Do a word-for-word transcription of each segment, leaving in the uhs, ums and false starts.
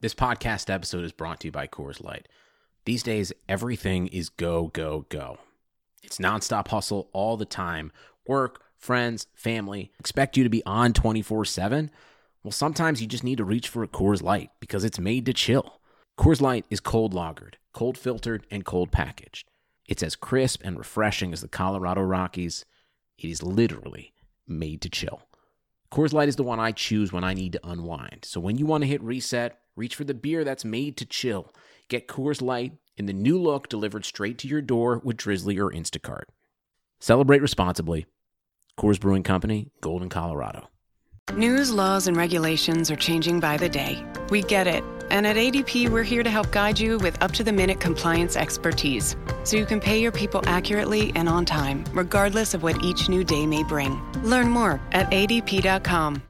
This podcast episode is brought to you by Coors Light. These days, everything is go, go, go. It's nonstop hustle all the time. Work, friends, family, expect you to be on twenty-four seven. Well, sometimes you just need to reach for a Coors Light because it's made to chill. Coors Light is cold lagered, cold filtered, and cold packaged. It's as crisp and refreshing as the Colorado Rockies. It is literally made to chill. Coors Light is the one I choose when I need to unwind. So when you want to hit reset, reach for the beer that's made to chill. Get Coors Light in the new look delivered straight to your door with Drizzly or Instacart. Celebrate responsibly. Coors Brewing Company, Golden, Colorado. News, laws, and regulations are changing by the day. We get it. And at A D P, we're here to help guide you with up-to-the-minute compliance expertise, so you can pay your people accurately and on time, regardless of what each new day may bring. Learn more at A D P dot com.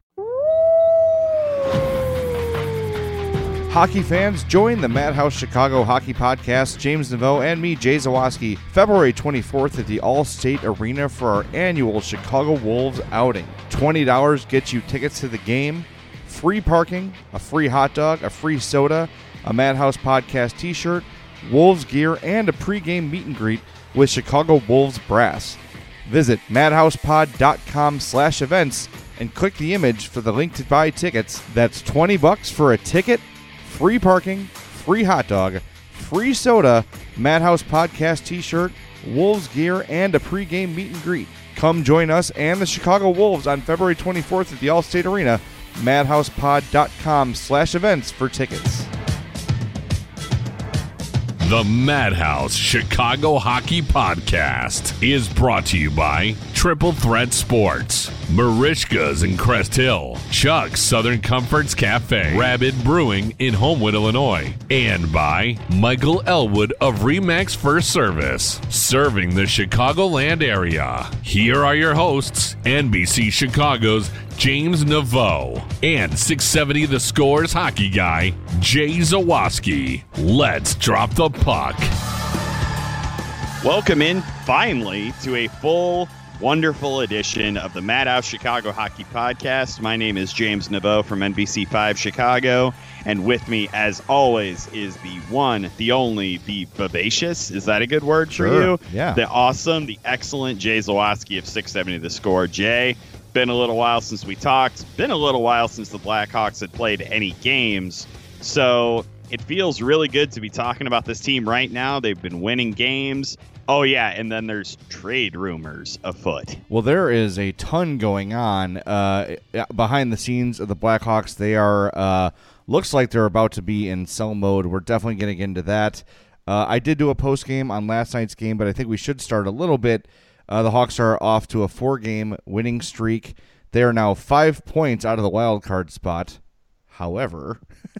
Hockey fans, join the Madhouse Chicago Hockey Podcast, James Neveau and me, Jay Zawaski, February twenty-fourth at the All-State Arena for our annual Chicago Wolves outing. twenty dollars gets you tickets to the game, free parking, a free hot dog, a free soda, a Madhouse Podcast t-shirt, Wolves gear, and a pregame meet and greet with Chicago Wolves brass. Visit madhousepod.com slash events and click the image for the link to buy tickets. That's twenty bucks for a ticket, free parking, free hot dog, free soda, Madhouse Podcast t-shirt, Wolves gear, and a pregame meet and greet. Come join us and the Chicago Wolves on February twenty-fourth at the All-State Arena. madhousepod.com slash events for tickets. The Madhouse Chicago Hockey Podcast is brought to you by Triple Threat Sports, Marishka's in Crest Hill, Chuck's Southern Comforts Cafe, Rabbit Brewing in Homewood, Illinois, and by Michael Elwood of Remax First Service, serving the Chicagoland area. Here are your hosts, N B C Chicago's James Neveau and six seventy The Score's hockey guy, Jay Zawaski. Let's drop the puck. Welcome in, finally, to a full, wonderful edition of the Madhouse Chicago Hockey Podcast. My name is James Neveau from N B C five Chicago, and with me, as always, is the one, the only, the vivacious, is that a good word Sure. for you? Yeah. The awesome, the excellent Jay Zawaski of six seventy The Score. Jay, been a little while since we talked. Been a little while since the Blackhawks had played any games. So it feels really good to be talking about this team right now. They've been winning games. Oh, yeah, and then there's trade rumors afoot. Well, there is a ton going on uh, behind the scenes of the Blackhawks. They are, uh, looks like they're about to be in sell mode. We're definitely going to get into that. Uh, I did do a post game on last night's game, but I think we should start a little bit. Uh, the Hawks are off to a four-game winning streak. They are now five points out of the wild card spot. However,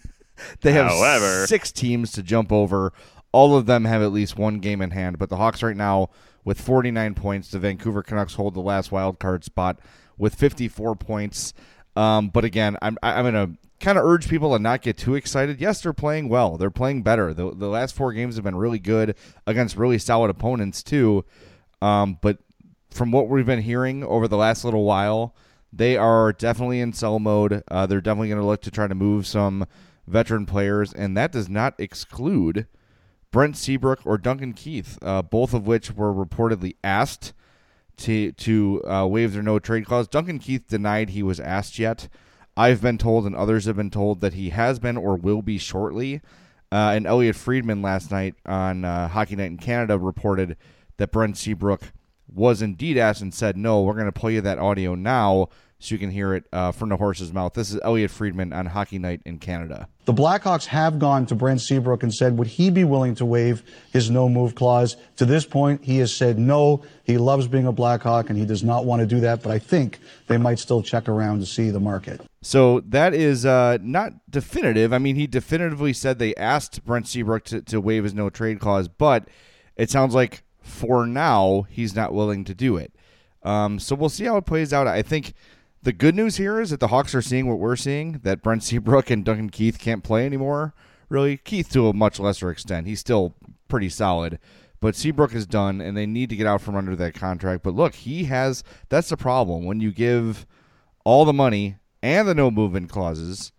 they have However. six teams to jump over. All of them have at least one game in hand, but the Hawks right now with forty-nine points. The Vancouver Canucks hold the last wild card spot with fifty-four points. Um, but again, I'm I'm going to kind of urge people to not get too excited. Yes, they're playing well. They're playing better. The, the last four games have been really good against really solid opponents too. Um, but from what we've been hearing over the last little while, they are definitely in sell mode. Uh, they're definitely going to look to try to move some veteran players, and that does not exclude Brent Seabrook or Duncan Keith, uh, both of which were reportedly asked to to uh, waive their no-trade clause. Duncan Keith denied he was asked yet. I've been told, and others have been told, that he has been or will be shortly. Uh, and Elliot Friedman last night on uh, Hockey Night in Canada reported that Brent Seabrook was indeed asked and said, no, we're going to play you that audio now so you can hear it uh, from the horse's mouth. This is Elliot Friedman on Hockey Night in Canada. The Blackhawks have gone to Brent Seabrook and said, would he be willing to waive his no-move clause? To this point, he has said no. He loves being a Blackhawk, and he does not want to do that, but I think they might still check around to see the market. So that is uh, not definitive. I mean, he definitively said they asked Brent Seabrook to, to waive his no-trade clause, but it sounds like for now he's not willing to do it. Um, so we'll see how it plays out. I think the good news here is that the Hawks are seeing what we're seeing, that Brent Seabrook and Duncan Keith can't play anymore. Really, Keith to a much lesser extent. He's still pretty solid. But Seabrook is done, and they need to get out from under that contract. But look, he has – that's the problem. When you give all the money and the no-movement clauses,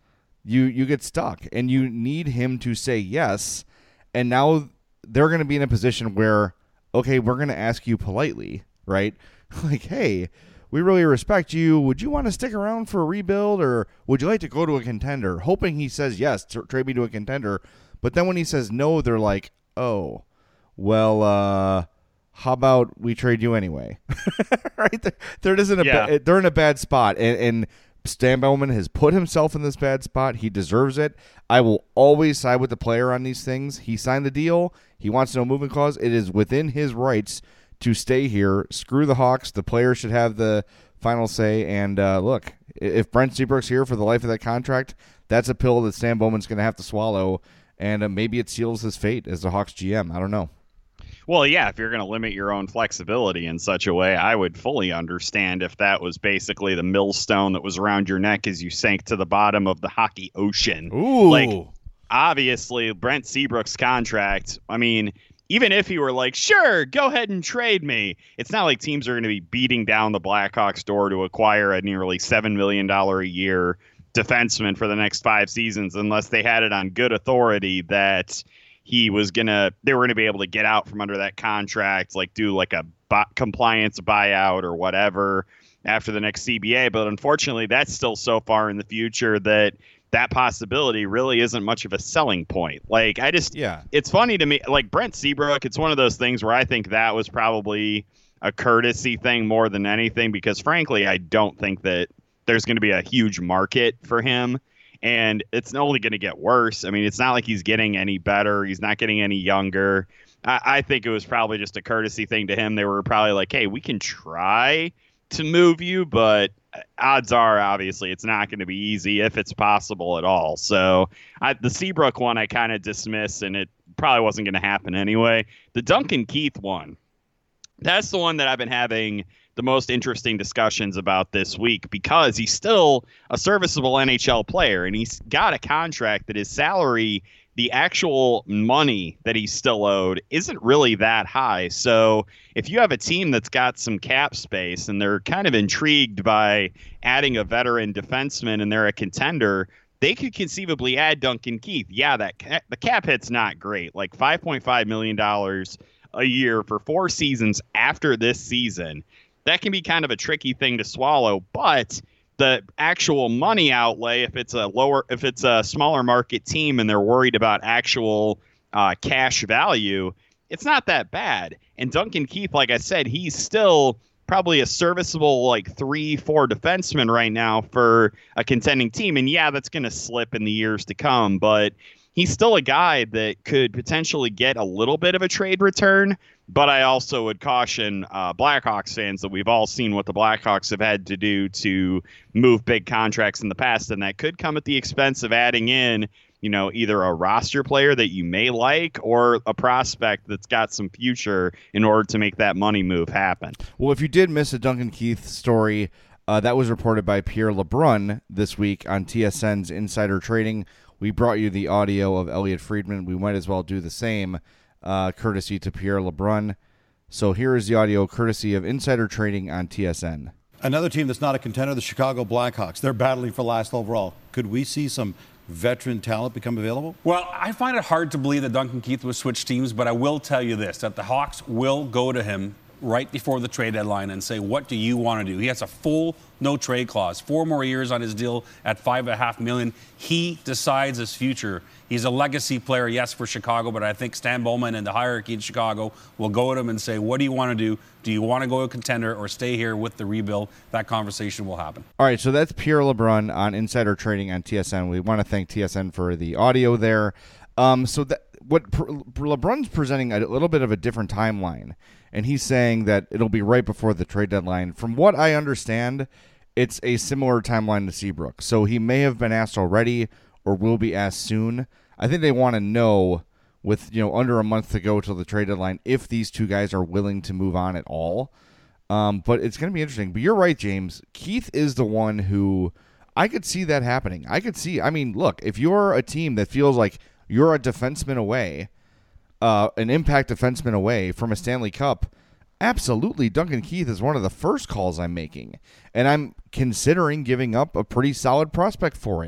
you you get stuck, and you need him to say yes. And now they're going to be in a position where, okay, we're going to ask you politely, right? Like, hey, we really respect you. Would you want to stick around for a rebuild, or would you like to go to a contender? Hoping he says yes, to trade me to a contender. But then when he says no, they're like, oh, well, uh, how about we trade you anyway? Right? They're, they're, just in a yeah. ba- they're in a bad spot. And, and Stan Bowman has put himself in this bad spot. He deserves it. I will always side with the player on these things. He signed the deal. He wants no movement clause. It is within his rights to stay here. Screw the Hawks. The player should have the final say. And uh, look, if Brent Seabrook's here for the life of that contract, that's a pill that Stan Bowman's going to have to swallow. And uh, maybe it seals his fate as the Hawks G M. I don't know. Well, yeah, if you're going to limit your own flexibility in such a way, I would fully understand if that was basically the millstone that was around your neck as you sank to the bottom of the hockey ocean. Ooh. Like, obviously, Brent Seabrook's contract, I mean, even if he were like, sure, go ahead and trade me, it's not like teams are going to be beating down the Blackhawks' door to acquire a nearly seven million dollars a year defenseman for the next five seasons unless they had it on good authority that he was going to, they were going to be able to get out from under that contract, like do like a bu- compliance buyout or whatever after the next C B A. But unfortunately, that's still so far in the future that that possibility really isn't much of a selling point. Like, I just, yeah, it's funny to me, like Brent Seabrook, it's one of those things where I think that was probably a courtesy thing more than anything, because frankly, I don't think that there's going to be a huge market for him. And it's only going to get worse. I mean, it's not like he's getting any better. He's not getting any younger. I, I think it was probably just a courtesy thing to him. They were probably like, hey, we can try to move you, but odds are, obviously, it's not going to be easy if it's possible at all. So I, the Seabrook one, I kind of dismiss, and it probably wasn't going to happen anyway. The Duncan Keith one, that's the one that I've been having the most interesting discussions about this week, because he's still a serviceable N H L player, and he's got a contract that his salary, the actual money that he's still owed, isn't really that high. So if you have a team that's got some cap space and they're kind of intrigued by adding a veteran defenseman and they're a contender, they could conceivably add Duncan Keith. Yeah, that ca- the cap hit's not great, like five point five million dollars a year for four seasons after this season. That can be kind of a tricky thing to swallow, but the actual money outlay, if it's a lower, if it's a smaller market team and they're worried about actual uh, cash value, it's not that bad. And Duncan Keith, like I said, he's still probably a serviceable like three, four defenseman right now for a contending team. And yeah, that's going to slip in the years to come, but he's still a guy that could potentially get a little bit of a trade return. But I also would caution uh, Blackhawks fans that we've all seen what the Blackhawks have had to do to move big contracts in the past, and that could come at the expense of adding in, you know, either a roster player that you may like or a prospect that's got some future in order to make that money move happen. Well, if you did miss a Duncan Keith story, uh, that was reported by Pierre LeBrun this week on T S N's Insider Trading. We brought you the audio of Elliot Friedman. We might as well do the same. Uh, courtesy to Pierre LeBrun. So here is the audio courtesy of Insider Trading on T S N. Another team that's not a contender, the Chicago Blackhawks. They're battling for last overall. Could we see some veteran talent become available? Well, I find it hard to believe that Duncan Keith would switch teams, but I will tell you this, that the Hawks will go to him right before the trade deadline and say, what do you want to do? He has a full no trade clause, four more years on his deal at five and a half million. He decides his future. He's a legacy player, yes, for Chicago, but I think Stan Bowman and the hierarchy in Chicago will go at him and say, what do you want to do? Do you want to go a contender or stay here with the rebuild? That conversation will happen. All right, so that's Pierre LeBrun on Insider Trading on T S N. We want to thank T S N for the audio there. Um, so that what LeBrun's presenting a little bit of a different timeline, and he's saying that it'll be right before the trade deadline. From what I understand, it's a similar timeline to Seabrook. So he may have been asked already or will be asked soon. I think they want to know, with you know under a month to go till the trade deadline, if these two guys are willing to move on at all. Um, but it's going to be interesting. But you're right, James. Keith is the one who I could see that happening. I could see. I mean, look, if you're a team that feels like you're a defenseman away, uh, an impact defenseman away from a Stanley Cup, absolutely, Duncan Keith is one of the first calls I'm making. And I'm considering giving up a pretty solid prospect for it.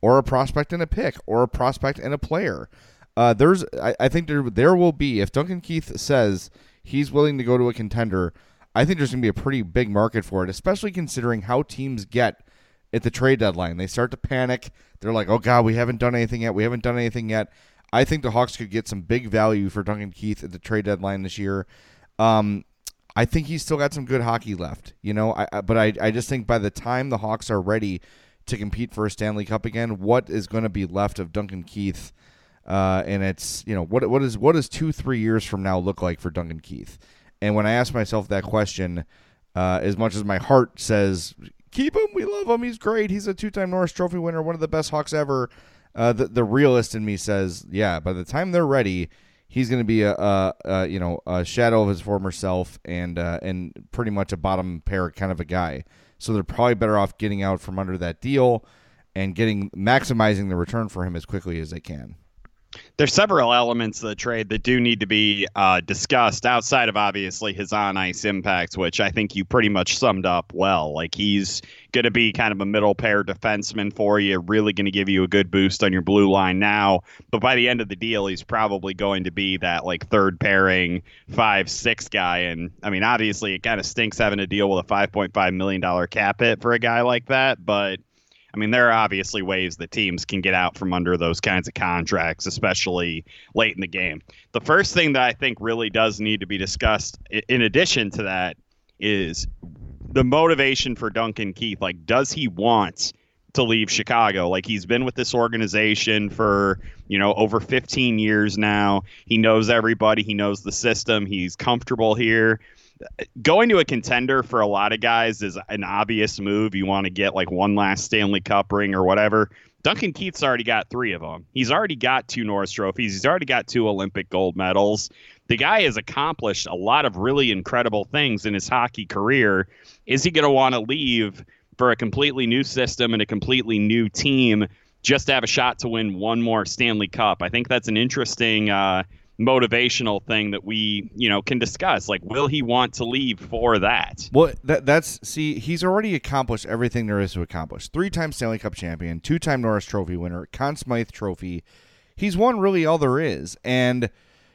or a prospect and a pick, or a prospect and a player. Uh, there's, I, I think there there will be, if Duncan Keith says he's willing to go to a contender, I think there's going to be a pretty big market for it, especially considering how teams get at the trade deadline. They start to panic. They're like, oh, God, we haven't done anything yet. We haven't done anything yet. I think the Hawks could get some big value for Duncan Keith at the trade deadline this year. Um, I think he's still got some good hockey left, you know, I, I, but I, I just think by the time the Hawks are ready to compete for a Stanley Cup again, what is going to be left of Duncan Keith? Uh, and it's, you know, what what is what does two, three years from now look like for Duncan Keith? And when I ask myself that question, uh, as much as my heart says, keep him, we love him, he's great, he's a two-time Norris Trophy winner, one of the best Hawks ever, uh, the, the realist in me says, yeah, by the time they're ready, he's going to be a, a, a, you know, a shadow of his former self and uh, and pretty much a bottom pair kind of a guy. So they're probably better off getting out from under that deal and getting maximizing the return for him as quickly as they can. There's several elements of the trade that do need to be uh, discussed outside of obviously his on-ice impact, which I think you pretty much summed up well. Like, he's going to be kind of a middle pair defenseman for you, really going to give you a good boost on your blue line now. But by the end of the deal, he's probably going to be that like third pairing five six guy. And I mean, obviously, it kind of stinks having to deal with a five point five million dollars cap hit for a guy like that, but I mean, there are obviously ways that teams can get out from under those kinds of contracts, especially late in the game. The first thing that I think really does need to be discussed, in addition to that, is the motivation for Duncan Keith. Like, does he want to leave Chicago? Like, he's been with this organization for, you know, over fifteen years now. He knows everybody. He knows the system. He's comfortable here. Going to a contender for a lot of guys is an obvious move. You want to get like one last Stanley Cup ring or whatever. Duncan Keith's already got three of them. He's already got two Norris trophies. He's already got two Olympic gold medals. The guy has accomplished a lot of really incredible things in his hockey career. Is he going to want to leave for a completely new system and a completely new team just to have a shot to win one more Stanley Cup? I think that's an interesting uh, motivational thing that we, you know, can discuss. Like, will he want to leave for that? Well, that that's see, he's already accomplished everything there is to accomplish. Three-time Stanley Cup champion, two-time Norris Trophy winner, Conn Smythe Trophy. He's won really all there is, and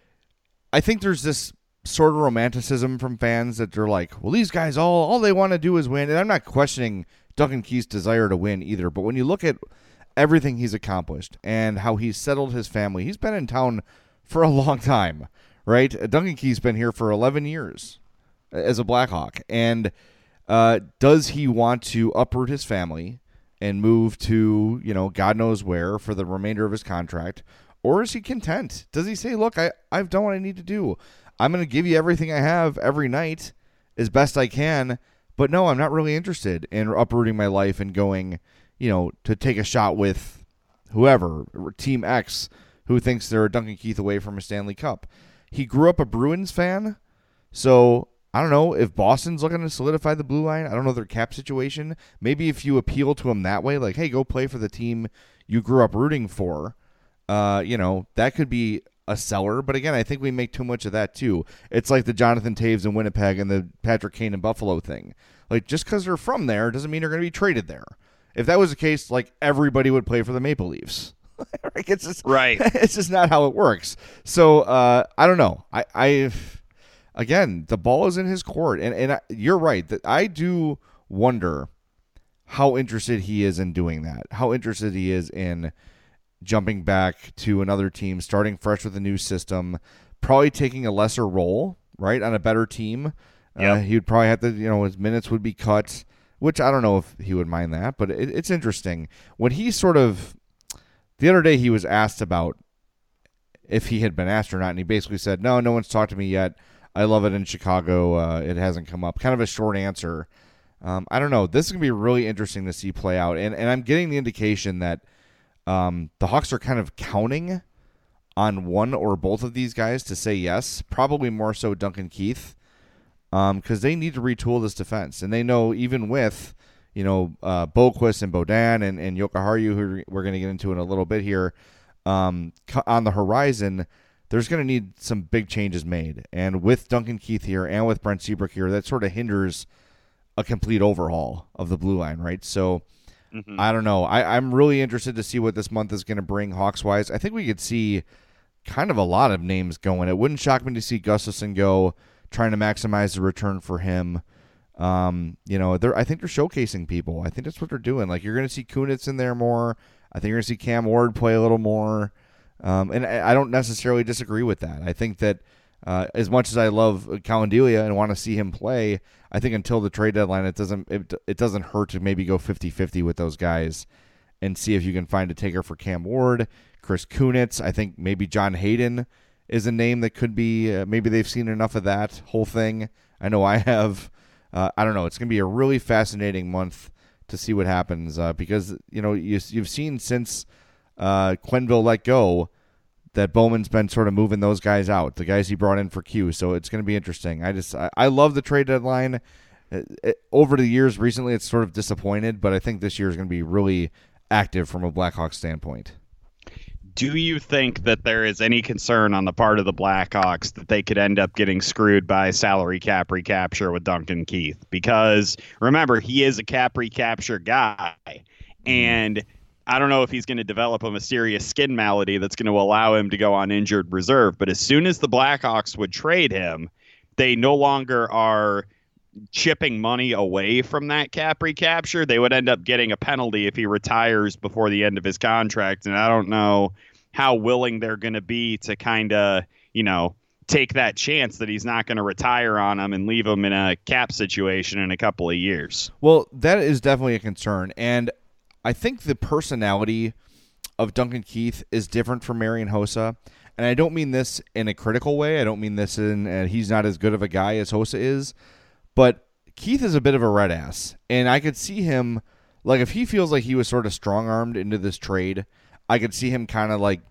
I think there's this sort of romanticism from fans that they're like, well, these guys all all they want to do is win. And I'm not questioning Duncan Keith's desire to win either, but when you look at everything he's accomplished and how he's settled his family, he's been in town for a long time, right? Duncan Keith's been here for eleven years as a Blackhawk. And uh, does he want to uproot his family and move to, you know, God knows where for the remainder of his contract? Or is he content? Does he say, look, I, I've done what I need to do. I'm going to give you everything I have every night as best I can. But no, I'm not really interested in uprooting my life and going, you know, to take a shot with whoever, Team X, who thinks they're Duncan Keith away from a Stanley Cup. He grew up a Bruins fan, so I don't know if Boston's looking to solidify the blue line. I don't know their cap situation. Maybe if you appeal to him that way, like, hey, go play for the team you grew up rooting for, uh, you know, that could be a seller. But again, I think we make too much of that too. It's like the Jonathan Taves in Winnipeg and the Patrick Kane in Buffalo thing. Like, just because they're from there doesn't mean they're going to be traded there. If that was the case, like, everybody would play for the Maple Leafs. it's just right. It's just not how it works. So uh, I don't know. I, I again, the ball is in his court, and and I, you're right that I do wonder how interested he is in doing that. How interested he is in jumping back to another team, starting fresh with a new system, probably taking a lesser role, right, on a better team. Yep. Uh, he would probably have to, you know, his minutes would be cut, which I don't know if he would mind that, but it, it's interesting when he sort of. The other day he was asked about if he had been asked or not, and he basically said, no, no one's talked to me yet. I love it in Chicago. Uh, it hasn't come up. Kind of a short answer. Um, I don't know. This is going to be really interesting to see play out, and, and I'm getting the indication that um, the Hawks are kind of counting on one or both of these guys to say yes, probably more so Duncan Keith, because um, they need to retool this defense, and they know even with – you know, uh, Boquist and Bodan and, and Jokiharju, who we're going to get into in a little bit here, um, on the horizon, there's going to need some big changes made. And with Duncan Keith here and with Brent Seabrook here, that sort of hinders a complete overhaul of the blue line, right? So Mm-hmm. I don't know. I, I'm really interested to see what this month is going to bring Hawks-wise. I think we could see kind of a lot of names going. It wouldn't shock me to see Gustafsson go, trying to maximize the return for him. Um, you know, they're I think they're showcasing people. I think that's what they're doing. Like, you're going to see Kunitz in there more. I think you're going to see Cam Ward play a little more. Um, and I, I don't necessarily disagree with that. I think that uh, as much as I love Kalendelia and want to see him play, I think until the trade deadline, it doesn't it, it doesn't hurt to maybe go fifty-fifty with those guys and see if you can find a taker for Cam Ward, Chris Kunitz. I think maybe John Hayden is a name that could be, uh, maybe they've seen enough of that whole thing. I know I have. Uh, I don't know. It's going to be a really fascinating month to see what happens uh, because, you know, you, you've seen since uh, Quenneville let go that Bowman's been sort of moving those guys out, the guys he brought in for Q. So it's going to be interesting. I just I, I love the trade deadline. It, it, over the years recently, it's sort of disappointed, but I think this year is going to be really active from a Blackhawks standpoint. Do you think that there is any concern on the part of the Blackhawks that they could end up getting screwed by salary cap recapture with Duncan Keith? Because remember, he is a cap recapture guy, and I don't know if he's going to develop a mysterious skin malady that's going to allow him to go on injured reserve. But as soon as the Blackhawks would trade him, they no longer are chipping money away from that cap recapture. They would end up getting a penalty if he retires before the end of his contract. And I don't know how willing they're going to be to kind of, you know, take that chance that he's not going to retire on him and leave him in a cap situation in a couple of years. Well, that is definitely a concern. And I think the personality of Duncan Keith is different from Marian Hossa. And I don't mean this in a critical way. I don't mean this in uh, he's not as good of a guy as Hossa is. But Keith is a bit of a red ass. And I could see him, like, if he feels like he was sort of strong-armed into this trade, I could see him kind of like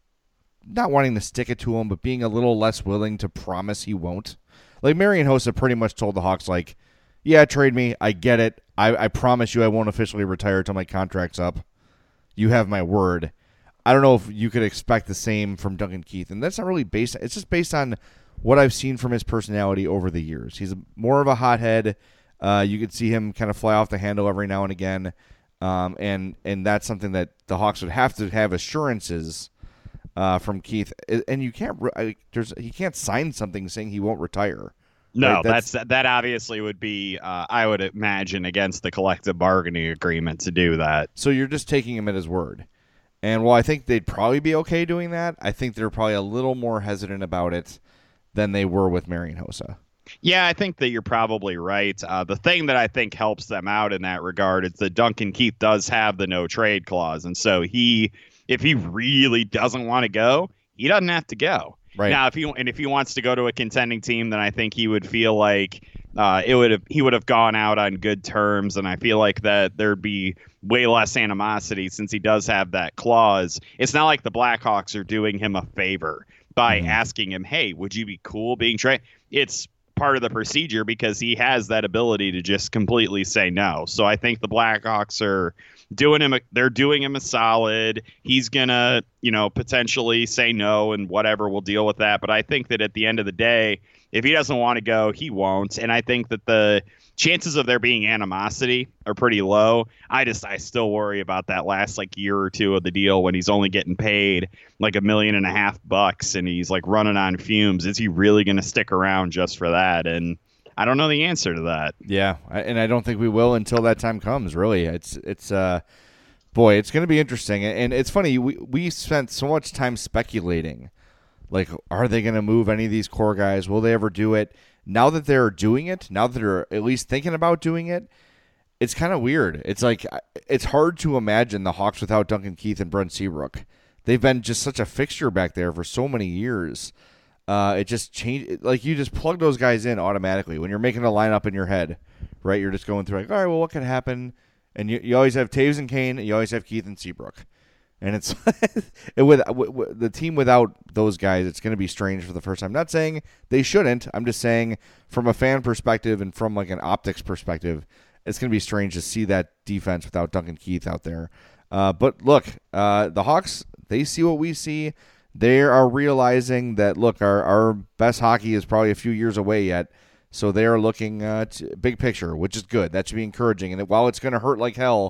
not wanting to stick it to him, but being a little less willing to promise he won't. Like, Marian Hossa pretty much told the Hawks, like, yeah, trade me. I get it. I, I promise you I won't officially retire until my contract's up. You have my word. I don't know if you could expect the same from Duncan Keith. And that's not really based – it's just based on what I've seen from his personality over the years. He's more of a hothead. Uh, you could see him kind of fly off the handle every now and again. Um, and and that's something that the Hawks would have to have assurances uh, from Keith. And you can't I, there's he can't sign something saying he won't retire. No, right? that's, that's that obviously would be, uh, I would imagine, against the collective bargaining agreement to do that. So you're just taking him at his word. And while I think they'd probably be okay doing that, I think they're probably a little more hesitant about it than they were with Marian Hossa. Yeah, I think that you're probably right. Uh, the thing that I think helps them out in that regard is that Duncan Keith does have the no trade clause. And so he, if he really doesn't want to go, he doesn't have to go. Right. Now, if he and if he wants to go to a contending team, then I think he would feel like uh, it would have he would have gone out on good terms. And I feel like that there'd be way less animosity since he does have that clause. It's not like the Blackhawks are doing him a favor by mm-hmm. asking him, hey, would you be cool being traded? It's part of the procedure because he has that ability to just completely say no. So I think the Blackhawks are doing him a, they're doing him a solid. He's gonna, you know, potentially say no and whatever, we'll deal with that. But I think that at the end of the day, if he doesn't want to go, he won't. And I think that the chances of there being animosity are pretty low. I just I still worry about that last like year or two of the deal when he's only getting paid like a million and a half bucks and he's like running on fumes. Is he really going to stick around just for that? And I don't know the answer to that. Yeah, and I don't think we will until that time comes. Really, it's it's uh, boy, it's going to be interesting. And it's funny, we we spent so much time speculating, like, are they going to move any of these core guys? Will they ever do it? Now that they're doing it, now that they're at least thinking about doing it, it's kind of weird. It's like it's hard to imagine the Hawks without Duncan Keith and Brent Seabrook. They've been just such a fixture back there for so many years. Uh, it just changed. Like, you just plug those guys in automatically when you're making a lineup in your head, right? You're just going through like, all right, well, what could happen? And you, you always have Taves and Kane, and you always have Keith and Seabrook. And it's it, with, with the team without those guys, it's going to be strange for the first time. I'm not saying they shouldn't. I'm just saying from a fan perspective and from like an optics perspective, it's going to be strange to see that defense without Duncan Keith out there. Uh, but look, uh, the Hawks, they see what we see. They are realizing that, look, our, our best hockey is probably a few years away yet. So they are looking uh, to big picture, which is good. That should be encouraging. And while it's going to hurt like hell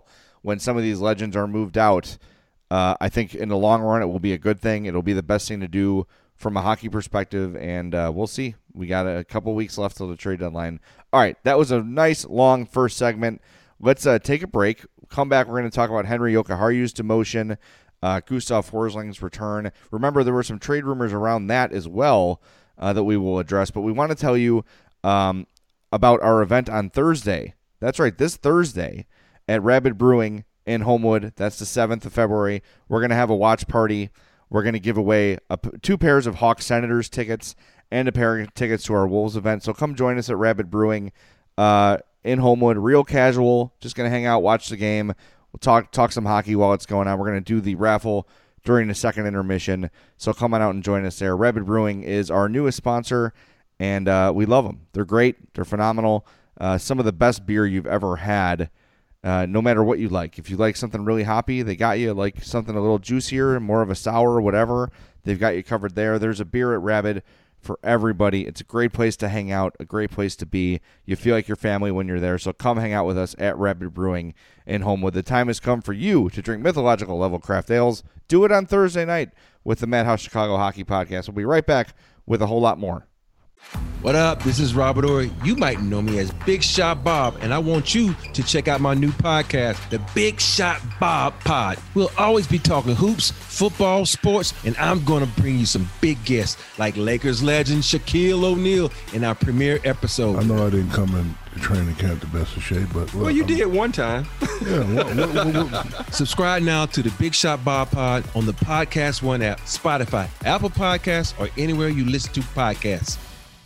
when some of these legends are moved out, uh, I think in the long run it will be a good thing. It'll be the best thing to do from a hockey perspective, and uh, we'll see. We got a couple weeks left till the trade deadline. All right, that was a nice, long first segment. Let's uh, take a break. Come back, we're going to talk about Henri Jokiharju's demotion, uh, Gustav Forsling's return. Remember, there were some trade rumors around that as well uh, that we will address, but we want to tell you um, about our event on Thursday. That's right, this Thursday at Rabid Brewing in Homewood. That's the seventh of February. We're going to have a watch party. We're going to give away a, two pairs of Hawks Senators tickets and a pair of tickets to our Wolves event. So come join us at Rabid Brewing uh, in Homewood. Real casual. Just going to hang out, watch the game. We'll talk talk some hockey while it's going on. We're going to do the raffle during the second intermission. So come on out and join us there. Rabid Brewing is our newest sponsor, and uh, we love them. They're great. They're phenomenal. Uh, some of the best beer you've ever had. Uh, no matter what you like. If you like something really hoppy, they got you. Like something a little juicier, more of a sour or whatever, they've got you covered there. There's a beer at Rabid for everybody. It's a great place to hang out, a great place to be. You feel like your family when you're there, so come hang out with us at Rabid Brewing in Homewood. The time has come for you to drink mythological level craft ales. Do it on Thursday night with the Madhouse Chicago Hockey Podcast. We'll be right back with a whole lot more. What up? This is Robert Ory. You might know me as Big Shot Bob, and I want you to check out my new podcast, The Big Shot Bob Pod. We'll always be talking hoops, football, sports, and I'm going to bring you some big guests like Lakers legend Shaquille O'Neal in our premiere episode. I know I didn't come in training camp the best of shape, but... Well, you I'm, did one time. Yeah. What, what, what, what? Subscribe now to The Big Shot Bob Pod on the Podcast One app, Spotify, Apple Podcasts, or anywhere you listen to podcasts.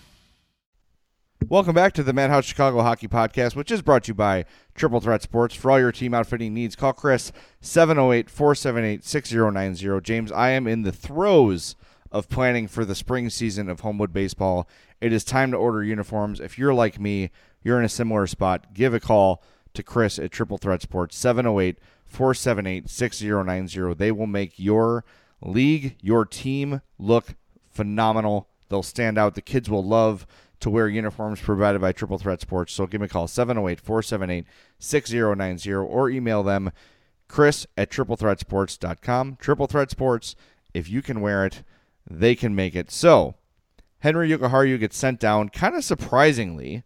Welcome back to the Madhouse Chicago Hockey Podcast, which is brought to you by Triple Threat Sports. For all your team outfitting needs, call Chris, seven oh eight, four seven eight, six oh nine oh. James, I am in the throes of planning for the spring season of Homewood baseball. It is time to order uniforms. If you're like me, you're in a similar spot, give a call to Chris at Triple Threat Sports, seven oh eight, four seven eight, six oh nine oh. They will make your league, your team look phenomenal. They'll stand out. The kids will love to wear uniforms provided by Triple Threat Sports. So give me a call, seven oh eight, four seven eight, six oh nine oh, or email them, Chris at triple threat sports dot com. Triple Threat Sports, if you can wear it, they can make it. So, Henri Jokiharju gets sent down, kind of surprisingly.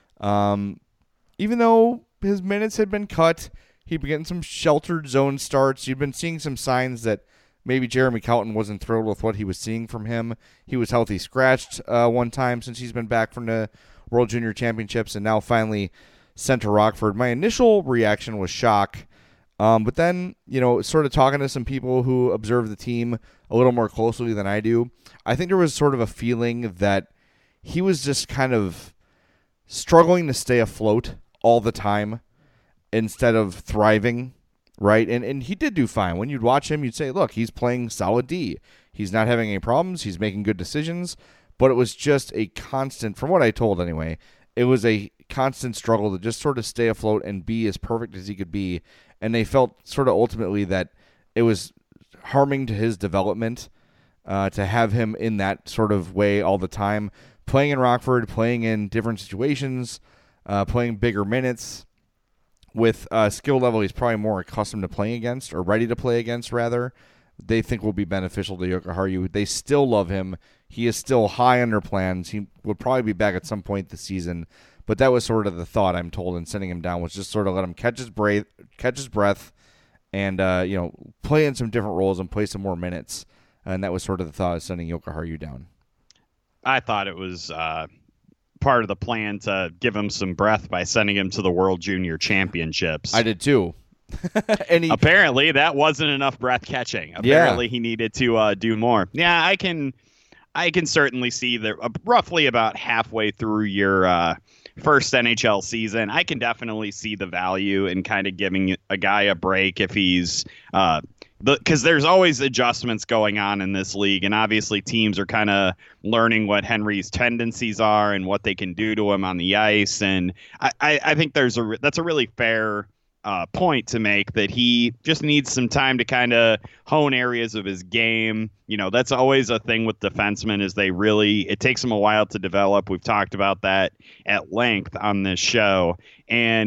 Um, even though his minutes had been cut, he'd been getting some sheltered zone starts. You'd been seeing some signs that maybe Jeremy Colton wasn't thrilled with what he was seeing from him. He was healthy scratched uh, one time since he's been back from the World Junior Championships and now finally sent to Rockford. My initial reaction was shock. Um, but then, you know, sort of talking to some people who observe the team a little more closely than I do, I think there was sort of a feeling that he was just kind of struggling to stay afloat all the time instead of thriving. Right, and and he did do fine. When you'd watch him, you'd say, look, he's playing solid D. He's not having any problems. He's making good decisions. But it was just a constant, from what I told anyway, it was a constant struggle to just sort of stay afloat and be as perfect as he could be. And they felt sort of ultimately that it was harming to his development uh, to have him in that sort of way all the time. Playing in Rockford, playing in different situations, uh, playing bigger minutes. With a skill level he's probably more accustomed to playing against, or ready to play against, rather, they think will be beneficial to Jokiharju. They still love him. He is still high on their plans. He would probably be back at some point this season, but that was sort of the thought, I'm told, in sending him down, was just sort of let him catch his breath, catch his breath and uh, you know, play in some different roles and play some more minutes. And that was sort of the thought of sending Jokiharju down. I thought it was... Uh... part of the plan to give him some breath by sending him to the World Junior Championships. I did too. and he, Apparently that wasn't enough breath catching. Apparently yeah. he needed to uh, do more. Yeah, I can I can certainly see that uh, roughly about halfway through your uh, first N H L season, I can definitely see the value in kind of giving a guy a break if he's uh, because there's always adjustments going on in this league, and obviously teams are kind of learning what Henry's tendencies are and what they can do to him on the ice. And I, I, I think there's a that's a really fair uh, point to make, that he just needs some time to kind of hone areas of his game. You know, that's always a thing with defensemen, is they really it takes them a while to develop. We've talked about that at length on this show, and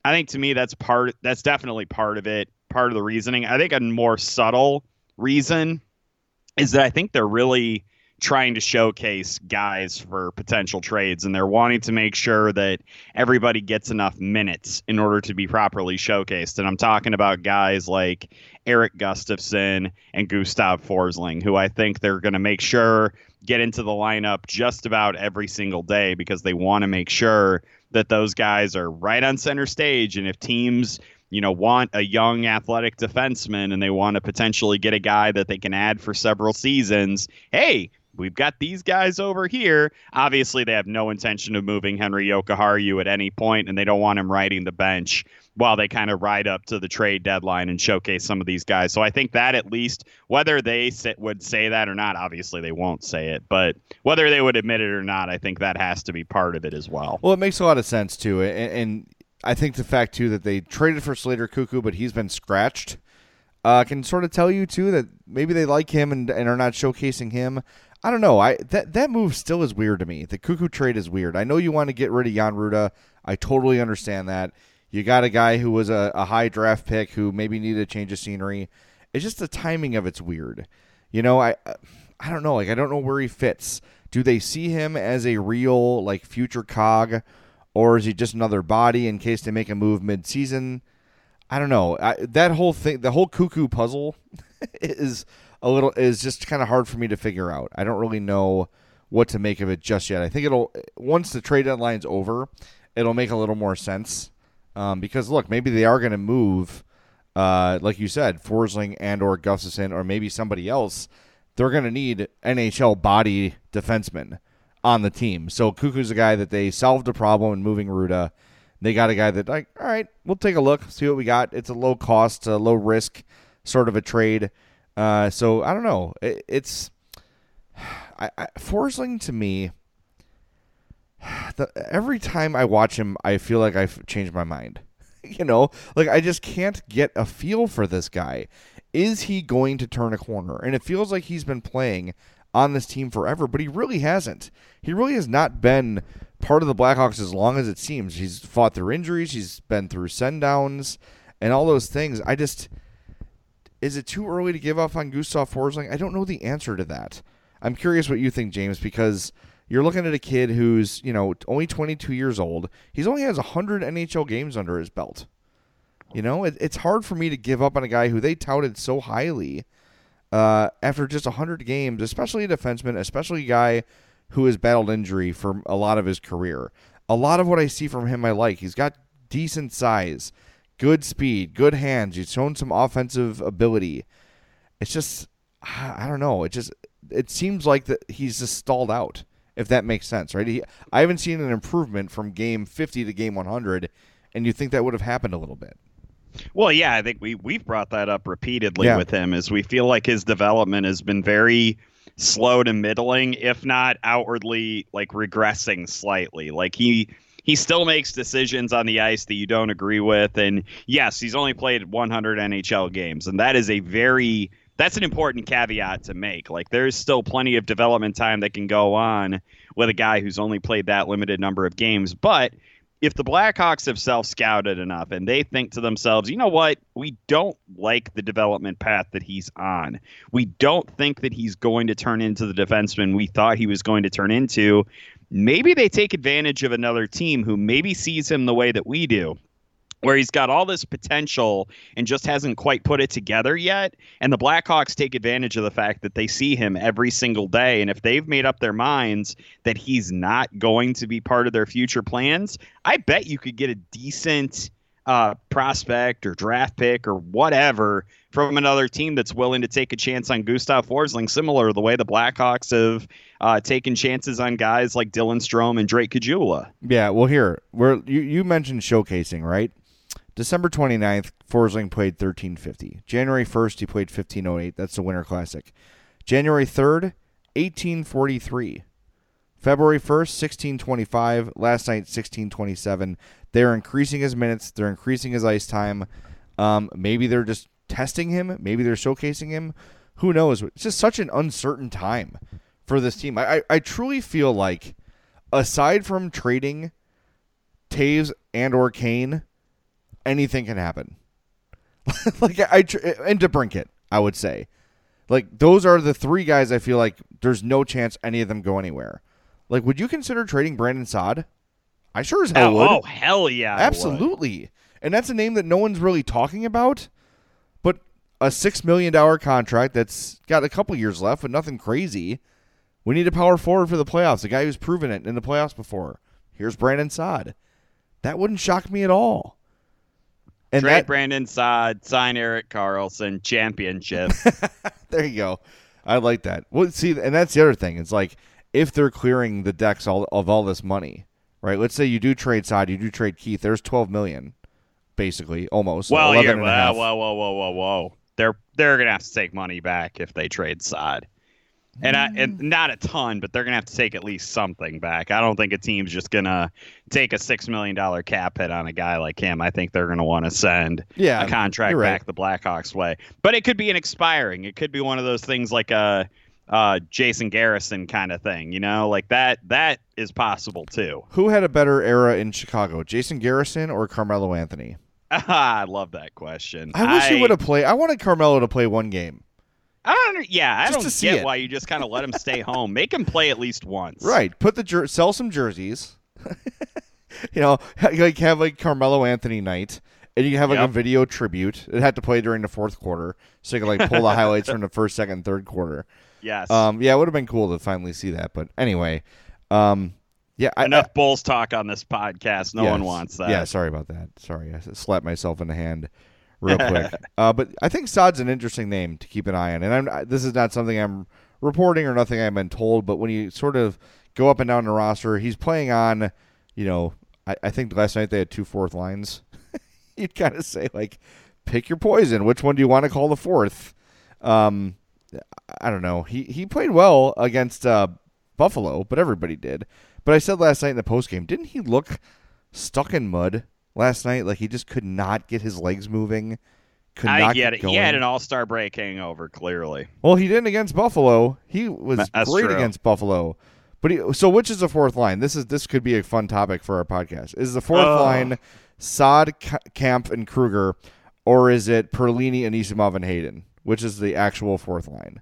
I think to me that's part that's definitely part of it, part of the reasoning. I think a more subtle reason is that I think they're really trying to showcase guys for potential trades, and they're wanting to make sure that everybody gets enough minutes in order to be properly showcased. And I'm talking about guys like Eric Gustafson and Gustav Forsling, who I think they're going to make sure get into the lineup just about every single day, because they want to make sure that those guys are right on center stage. And if teams, you know, want a young athletic defenseman and they want to potentially get a guy that they can add for several seasons, hey, we've got these guys over here. Obviously, they have no intention of moving Henri Jokiharju at any point, and they don't want him riding the bench while they kind of ride up to the trade deadline and showcase some of these guys. So I think that at least, whether they sit, would say that or not, obviously they won't say it, but whether they would admit it or not, I think that has to be part of it as well. Well, it makes a lot of sense, too. And, and I think the fact, too, that they traded for Slater Cuckoo, but he's been scratched, uh, can sort of tell you, too, that maybe they like him and, and are not showcasing him. I don't know. I that that move still is weird to me. The Cuckoo trade is weird. I know you want to get rid of Jan Ruda. I totally understand that. You got a guy who was a, a high draft pick who maybe needed a change of scenery. It's just the timing of it's weird. You know, I I don't know. Like, I don't know where he fits. Do they see him as a real, like, future cog, or is he just another body in case they make a move mid-season? I don't know. I, that whole thing, the whole Cuckoo puzzle is a little is just kind of hard for me to figure out. I don't really know what to make of it just yet. I think it'll once the trade deadline's over, it'll make a little more sense. Um, because look, maybe they are going to move, uh, like you said, Forsling and or Gustafson or maybe somebody else. They're going to need N H L body defensemen on the team. So Cuckoo's a guy that they solved a problem in moving Ruda. They got a guy that, like, all right, we'll take a look, see what we got. It's a low cost, a low risk sort of a trade. Uh, so I don't know. It, it's I, I, Forsling to me. The, every time I watch him, I feel like I've changed my mind. You know, like I just can't get a feel for this guy. Is he going to turn a corner? And it feels like he's been playing on this team forever, but he really hasn't. He really has not been part of the Blackhawks as long as it seems. He's fought through injuries. He's been through send-downs and all those things. I just... Is it too early to give up on Gustav Forsling? I don't know the answer to that. I'm curious what you think, James, because you're looking at a kid who's, you know, only twenty-two years old. He's only has one hundred N H L games under his belt. You know, it, it's hard for me to give up on a guy who they touted so highly uh, after just one hundred games, especially a defenseman, especially a guy who has battled injury for a lot of his career. A lot of what I see from him I like. He's got decent size, good speed, good hands. He's shown some offensive ability. It's just, I don't know. It just, it seems like that he's just stalled out, if that makes sense, right? He, I haven't seen an improvement from game fifty to game one hundred, and you think that would have happened a little bit. Well, yeah, I think we, we've brought that up repeatedly yeah. with him, as we feel like his development has been very slow to middling, if not outwardly, like, regressing slightly. Like, he... He still makes decisions on the ice that you don't agree with. And yes, he's only played one hundred N H L games. And that is a very, that's an important caveat to make. Like, there's still plenty of development time that can go on with a guy who's only played that limited number of games. But if the Blackhawks have self-scouted enough and they think to themselves, you know what, we don't like the development path that he's on. We don't think that he's going to turn into the defenseman we thought he was going to turn into. Maybe they take advantage of another team who maybe sees him the way that we do, where he's got all this potential and just hasn't quite put it together yet. And the Blackhawks take advantage of the fact that they see him every single day. And if they've made up their minds that he's not going to be part of their future plans, I bet you could get a decent uh, prospect or draft pick or whatever from another team that's willing to take a chance on Gustav Forsling, similar to the way the Blackhawks have uh, taken chances on guys like Dylan Strome and Drake Caggiula. Yeah, well, here, we're, you, you mentioned showcasing, right? December twenty-ninth, Forsling played thirteen fifty. January first, he played fifteen oh eight. That's the Winter Classic. January third, eighteen forty-three. February first, sixteen twenty-five. Last night, sixteen twenty-seven. They're increasing his minutes. They're increasing his ice time. Um, maybe they're just testing him. Maybe they're showcasing him. Who knows? It's just such an uncertain time for this team. I, I, I truly feel like, aside from trading Taves and or Kane, anything can happen. like I, I and DeBrincat, I would say. Like, those are the three guys I feel like there's no chance any of them go anywhere. Like, would you consider trading Brandon Saad? I sure as hell oh, would. Oh, hell yeah. Absolutely. And that's a name that no one's really talking about. But a six million dollars contract that's got a couple years left, but nothing crazy. We need a power forward for the playoffs, a guy who's proven it in the playoffs before. Here's Brandon Saad. That wouldn't shock me at all. And Trade that, Brandon Saad, sign Erik Karlsson, championship. There you go. I like that. Well, see, and that's the other thing. It's like, if they're clearing the decks all, of all this money, right? Let's say you do trade Saad, you do trade Keith. There's twelve million dollars, basically, almost. Well, yeah, and a half. whoa, whoa, whoa, whoa, whoa. They're they're gonna have to take money back if they trade Saad. And, I, and not a ton, but they're going to have to take at least something back. I don't think a team's just going to take a six million dollars cap hit on a guy like him. I think they're going to want to send yeah, a contract right. back the Blackhawks way. But it could be an expiring. It could be one of those things like a uh, Jason Garrison kind of thing. You know, like that. That is possible, too. Who had a better era in Chicago, Jason Garrison or Carmelo Anthony? I love that question. I wish I, he would have played. I wanted Carmelo to play one game. I don't. Yeah, I Just don't get it. why you just kind of let him stay home. Make him play at least once. Right. Put the jer- sell some jerseys. you know, like have like Carmelo Anthony night, and you can have like Yep. a video tribute. It had to play during the fourth quarter, so you could like pull the highlights from the first, second, third quarter. Yes. Um. Yeah, it would have been cool to finally see that. But anyway, um. Yeah. I, Enough I, Bulls talk on this podcast. No yes. one wants that. Yeah. Sorry about that. Sorry, I slapped myself in the hand. Real quick, uh, but I think Saad's an interesting name to keep an eye on, and I'm, I, this is not something I'm reporting or nothing I've been told. But when you sort of go up and down the roster, he's playing on, you know, I, I think last night they had two fourth lines. You'd kind of say like, pick your poison. Which one do you want to call the fourth? Um, I don't know. He he played well against uh, Buffalo, but everybody did. But I said last night in the postgame, didn't he look stuck in mud last night? Like he just could not get his legs moving. Could I not get get it. going. He had an all-star break hangover, clearly. Well, he didn't against Buffalo. He was That's great true. against Buffalo. But he, so which is the fourth line? This is this could be a fun topic for our podcast. Is the fourth Oh. line Saad, K- Camp, and Kruger, or is it Perlini, Anisimov, and Hayden? Which is the actual fourth line?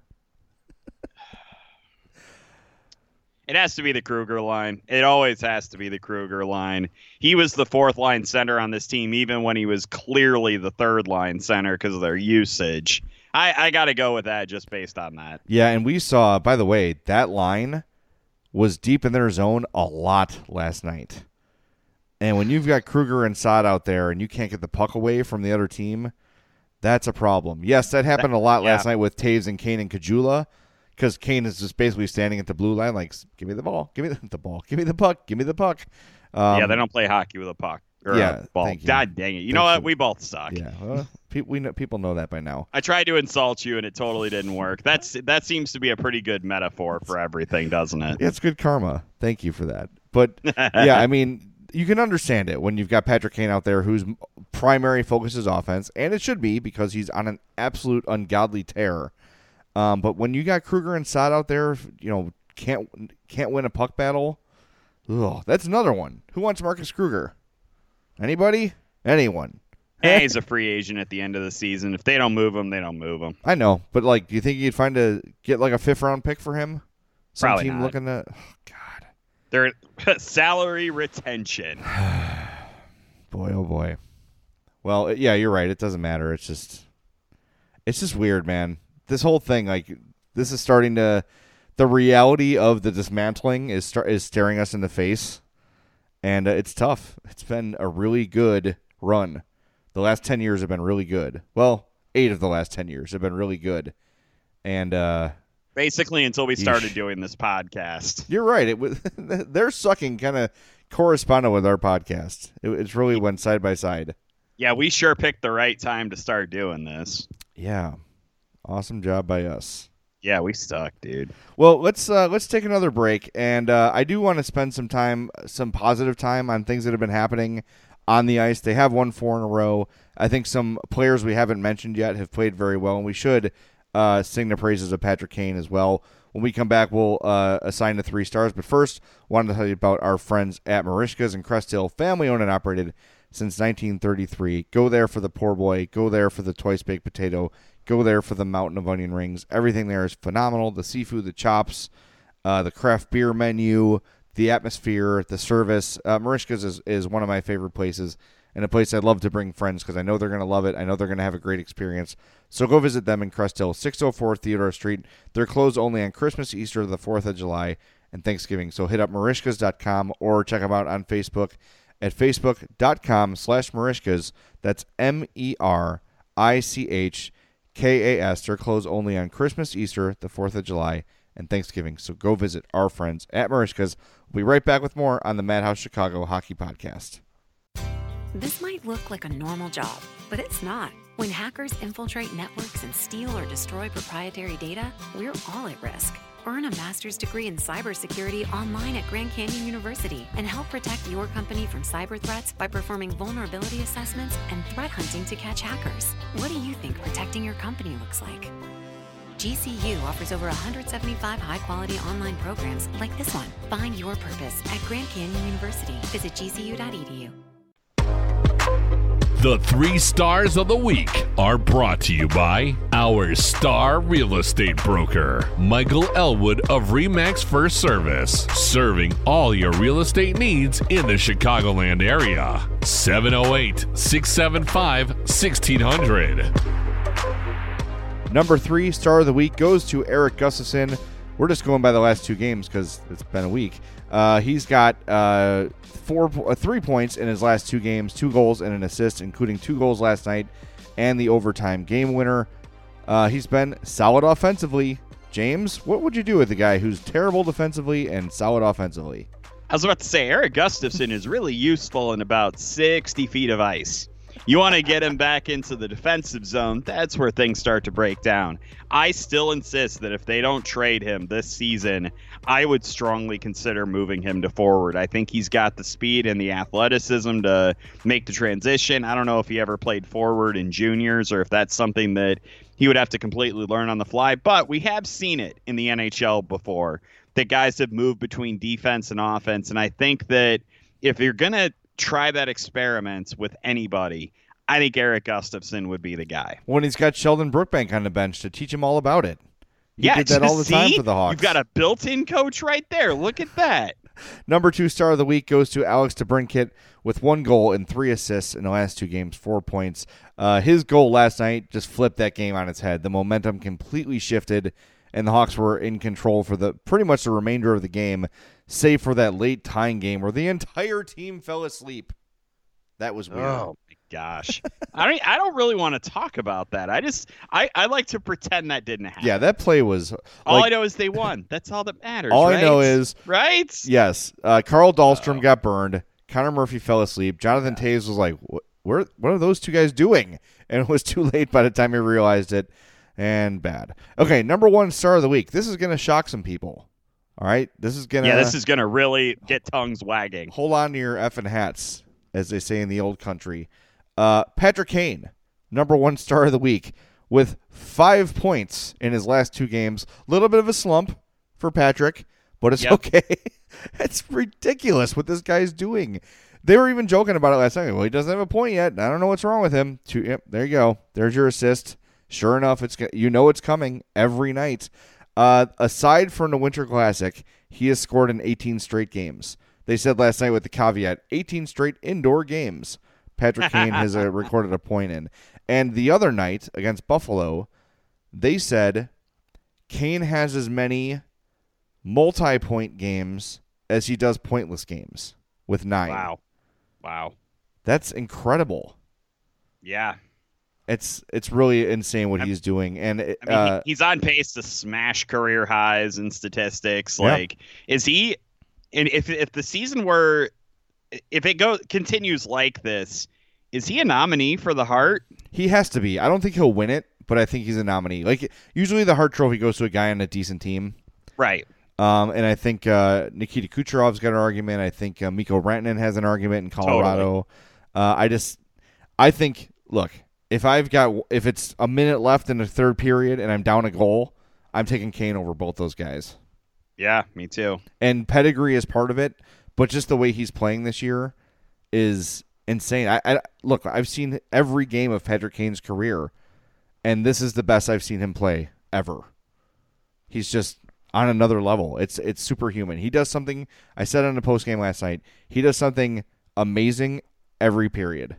It has to be the Kruger line. It always has to be the Kruger line. He was the fourth line center on this team, even when he was clearly the third line center because of their usage. I, I got to go with that just based on that. Yeah, and we saw, by the way, that line was deep in their zone a lot last night. And when you've got Kruger and Saad out there and you can't get the puck away from the other team, that's a problem. Yes, that happened a lot yeah. last night with Taves and Kane and Kajula, because Kane is just basically standing at the blue line like, give me the ball, give me the, the ball, give me the puck, give me the puck. Um, yeah, they don't play hockey with a puck or yeah, a ball. thank you. God dang it. You Thanks know what? for- We both suck. Yeah, well, pe- we know, people know that by now. I tried to insult you, and it totally didn't work. That's That seems to be a pretty good metaphor for everything, doesn't it? Yeah, it's good karma. Thank you for that. But, yeah, I mean, you can understand it when you've got Patrick Kane out there whose primary focus is offense, and it should be because he's on an absolute ungodly tear. Um, but when you got Kruger and Saad out there, you know, can't can't win a puck battle, ugh, that's another one. Who wants Marcus Kruger? Anybody? Anyone? And he's a free agent at the end of the season. If they don't move him, they don't move him. I know, but like, do you think you'd find a get like a fifth round pick for him? Some Probably team not. looking to. Oh, God, They're salary retention. boy, oh boy. Well, yeah, you're right. It doesn't matter. It's just, it's just weird, man. This whole thing, like, this is starting to, the reality of the dismantling is start is staring us in the face, and uh, it's tough. It's been a really good run. The last ten years have been really good. Well, eight of the last ten years have been really good, and uh, Basically, until we started Yeesh. doing this podcast. you're right. It was their sucking kind of corresponded with our podcast. It, it's really went side by side. Yeah, we sure picked the right time to start doing this. Yeah, awesome job by us. Yeah, we stuck, dude. Well, let's uh, let's take another break, and uh, I do want to spend some time, some positive time, on things that have been happening on the ice. They have won four in a row. I think some players we haven't mentioned yet have played very well, and we should uh, sing the praises of Patrick Kane as well. When we come back, we'll uh, assign the three stars. But first, wanted to tell you about our friends at Marishka's in Crest Hill, family-owned and operated since nineteen thirty-three. Go there for the poor boy. Go there for the twice baked potato. Go there for the mountain of onion rings. Everything there is phenomenal. The seafood, the chops, uh, the craft beer menu, the atmosphere, the service. Uh, Merichka's is, is one of my favorite places, and a place I'd love to bring friends because I know they're going to love it. I know they're going to have a great experience. So go visit them in Crest Hill, six oh four Theodore Street. They're closed only on Christmas, Easter, the fourth of July, and Thanksgiving. So hit up Merichkas dot com or check them out on Facebook at facebook.com slash Merichkas. That's M E R I C H K A S. They're closed only on Christmas, Easter, the fourth of July, and Thanksgiving. So go visit our friends at Merichkas. We'll be right back with more on the Madhouse Chicago Hockey Podcast. This might look like a normal job, but it's not. When hackers infiltrate networks and steal or destroy proprietary data, we're all at risk. Earn a master's degree in cybersecurity online at Grand Canyon University and help protect your company from cyber threats by performing vulnerability assessments and threat hunting to catch hackers. What do you think protecting your company looks like? G C U offers over one hundred seventy-five high-quality online programs like this one. Find your purpose at Grand Canyon University. Visit g c u dot e d u. The three stars of the week are brought to you by our star real estate broker, Michael Elwood of RE/MAX First Service, serving all your real estate needs in the Chicagoland area. seven oh eight, six seven five, one six hundred. Number three star of the week goes to Erik Gustafsson. We're just going by the last two games because it's been a week. Uh, he's got uh, four, uh, three points in his last two games, two goals and an assist, including two goals last night and the overtime game winner. Uh, he's been solid offensively. James, what would you do with a guy who's terrible defensively and solid offensively? I was about to say, Erik Gustafsson is really useful in about sixty feet of ice. You want to get him back into the defensive zone, that's where things start to break down. I still insist that if they don't trade him this season, I would strongly consider moving him to forward. I think he's got the speed and the athleticism to make the transition. I don't know if he ever played forward in juniors or if that's something that he would have to completely learn on the fly, but we have seen it in the N H L before, that guys have moved between defense and offense, and I think that if you're going to try that experiment with anybody, I think Erik Gustafsson would be the guy. When he's got Sheldon Brookbank on the bench to teach him all about it. He yeah, did that all the see? time for the Hawks. You've got a built-in coach right there. Look at that. Number two star of the week goes to Alex DeBrincat with one goal and three assists in the last two games, four points. Uh, his goal last night just flipped that game on its head. The momentum completely shifted, and the Hawks were in control for the pretty much the remainder of the game, save for that late tying game where the entire team fell asleep. That was weird. Oh my gosh. I don't I don't really want to talk about that. I just I, I like to pretend that didn't happen. Yeah, that play was like, all I know is they won. That's all that matters. All right? I know is right? Yes. Uh, Carl Dahlstrom oh. got burned. Connor Murphy fell asleep. Jonathan yeah. Toews was like, what, where, what are those two guys doing? And it was too late by the time he realized it. And bad. Okay, number one star of the week. This is going to shock some people. All right? This is going to... Yeah, this is going to really get tongues wagging. Hold on to your effing hats, as they say in the old country. Uh, Patrick Kane, number one star of the week, with five points in his last two games. A little bit of a slump for Patrick, but it's yep. okay. It's ridiculous what this guy's doing. They were even joking about it last night. Well, he doesn't have a point yet. I don't know what's wrong with him. Two, yep, there you go. There's your assist. Sure enough, it's you know it's coming every night. Uh, aside from the Winter Classic, he has scored in eighteen straight games. They said last night with the caveat, eighteen straight indoor games Patrick Kane has uh, recorded a point in. And the other night against Buffalo, they said Kane has as many multi-point games as he does pointless games with nine. Wow. Wow. That's incredible. Yeah. It's it's really insane what he's doing, and it, I mean, uh, he's on pace to smash career highs in statistics. Yeah. Like, is he? And if if the season were, if it goes continues like this, is he a nominee for the Hart? He has to be. I don't think he'll win it, but I think he's a nominee. Like usually, the Hart Trophy goes to a guy on a decent team, right? Um, and I think uh, Nikita Kucherov's got an argument. I think uh, Mikko Rantanen has an argument in Colorado. Totally. Uh, I just, I think, look. If I've got if it's a minute left in the third period and I'm down a goal, I'm taking Kane over both those guys. Yeah, me too. And pedigree is part of it, but just the way he's playing this year is insane. I, I look, I've seen every game of Patrick Kane's career, and this is the best I've seen him play ever. He's just on another level. It's it's superhuman. He does something, I said on the post game last night, he does something amazing every period.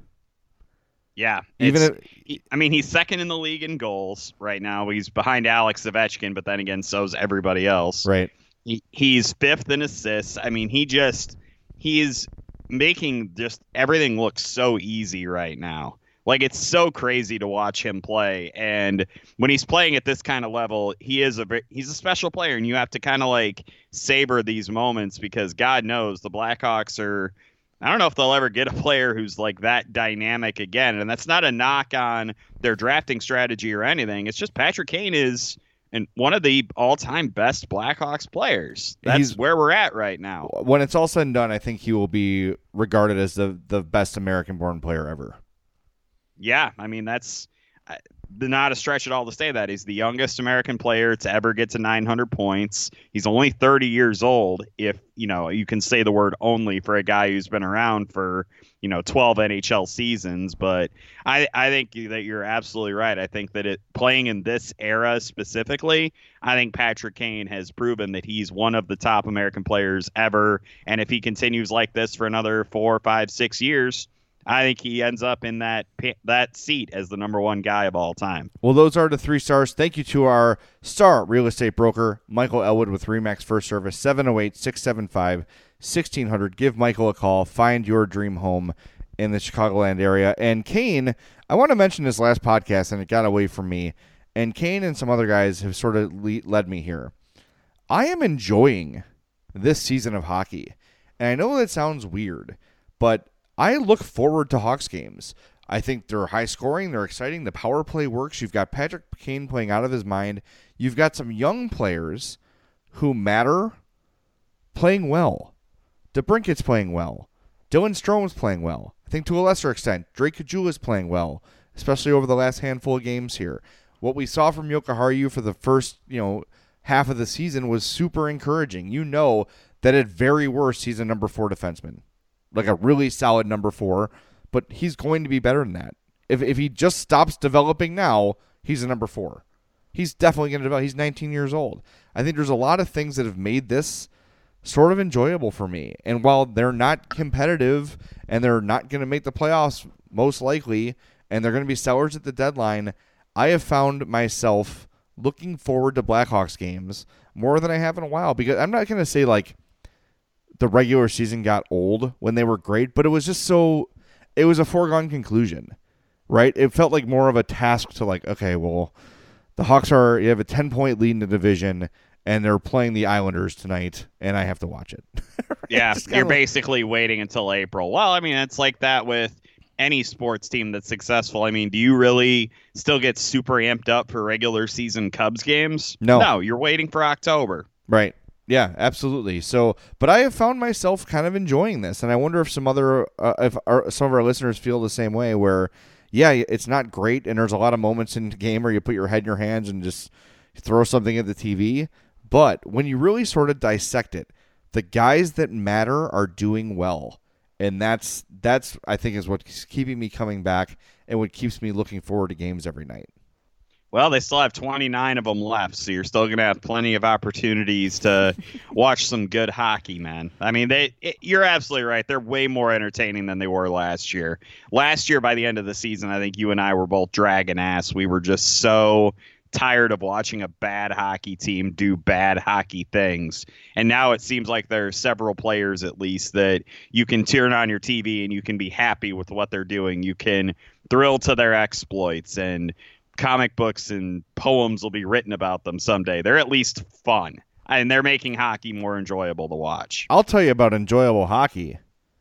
Yeah. Even if, he, I mean, he's second in the league in goals right now. He's behind Alex Ovechkin, but then again, so's everybody else. Right. He, he's fifth in assists. I mean, he just, he's making just everything look so easy right now. Like, it's so crazy to watch him play. And when he's playing at this kind of level, he is a he's a special player, and you have to kind of like savor these moments, because God knows the Blackhawks are, I don't know if they'll ever get a player who's like that dynamic again. And that's not a knock on their drafting strategy or anything. It's just Patrick Kane is and one of the all-time best Blackhawks players. That's He's, where we're at right now. When it's all said and done, I think he will be regarded as the, the best American-born player ever. Yeah, I mean, that's uh, not a stretch at all to say that. He's the youngest American player to ever get to nine hundred points. He's only thirty years old, if, you know, you can say the word only for a guy who's been around for, you know, twelve N H L seasons. But I, I think that you're absolutely right. I think that it playing in this era specifically, I think Patrick Kane has proven that he's one of the top American players ever. And if he continues like this for another four, five, six years, I think he ends up in that that seat as the number one guy of all time. Well, those are the three stars. Thank you to our star real estate broker, Michael Elwood with RE/MAX First Service, seven oh eight, six seven five, one six zero zero. Give Michael a call. Find your dream home in the Chicagoland area. And Kane, I want to mention this last podcast, and it got away from me. And Kane and some other guys have sort of le- led me here. I am enjoying this season of hockey. And I know that sounds weird, but I look forward to Hawks games. I think they're high scoring. They're exciting. The power play works. You've got Patrick Kane playing out of his mind. You've got some young players who matter playing well. DeBrincat's playing well. Dylan Strome's playing well. I think to a lesser extent, Drake Caggiula's playing well, especially over the last handful of games here. What we saw from Jokiharju for the first, you know, half of the season was super encouraging. You know that at very worst, he's a number four defenseman. Like a really solid number four, but he's going to be better than that. If if he just stops developing now, he's a number four. He's definitely going to develop. He's nineteen years old. I think there's a lot of things that have made this sort of enjoyable for me. And while they're not competitive and they're not going to make the playoffs most likely, and they're going to be sellers at the deadline, I have found myself looking forward to Blackhawks games more than I have in a while, because I'm not going to say like the regular season got old when they were great, but it was just so, it was a foregone conclusion, right? It felt like more of a task to like, okay, well, the Hawks are, you have a ten point lead in the division and they're playing the Islanders tonight and I have to watch it. Right? Yeah. You're like, basically waiting until April. Well, I mean, it's like that with any sports team that's successful. I mean, do you really still get super amped up for regular season Cubs games? No, no, you're waiting for October. Right. Yeah, absolutely. So, but I have found myself kind of enjoying this, and I wonder if some other, uh, if our, some of our listeners feel the same way. Where, yeah, it's not great, and there's a lot of moments in the game where you put your head in your hands and just throw something at the T V. But when you really sort of dissect it, the guys that matter are doing well, and that's that's I think is what's keeping me coming back and what keeps me looking forward to games every night. Well, they still have twenty-nine of them left, so you're still going to have plenty of opportunities to watch some good hockey, man. I mean, they it, you're absolutely right. They're way more entertaining than they were last year. Last year, by the end of the season, I think you and I were both dragging ass. We were just so tired of watching a bad hockey team do bad hockey things. And now it seems like there are several players, at least, that you can turn on your T V and you can be happy with what they're doing. You can thrill to their exploits, and comic books and poems will be written about them someday. They're at least fun, and they're making hockey more enjoyable to watch. I'll tell you about enjoyable hockey.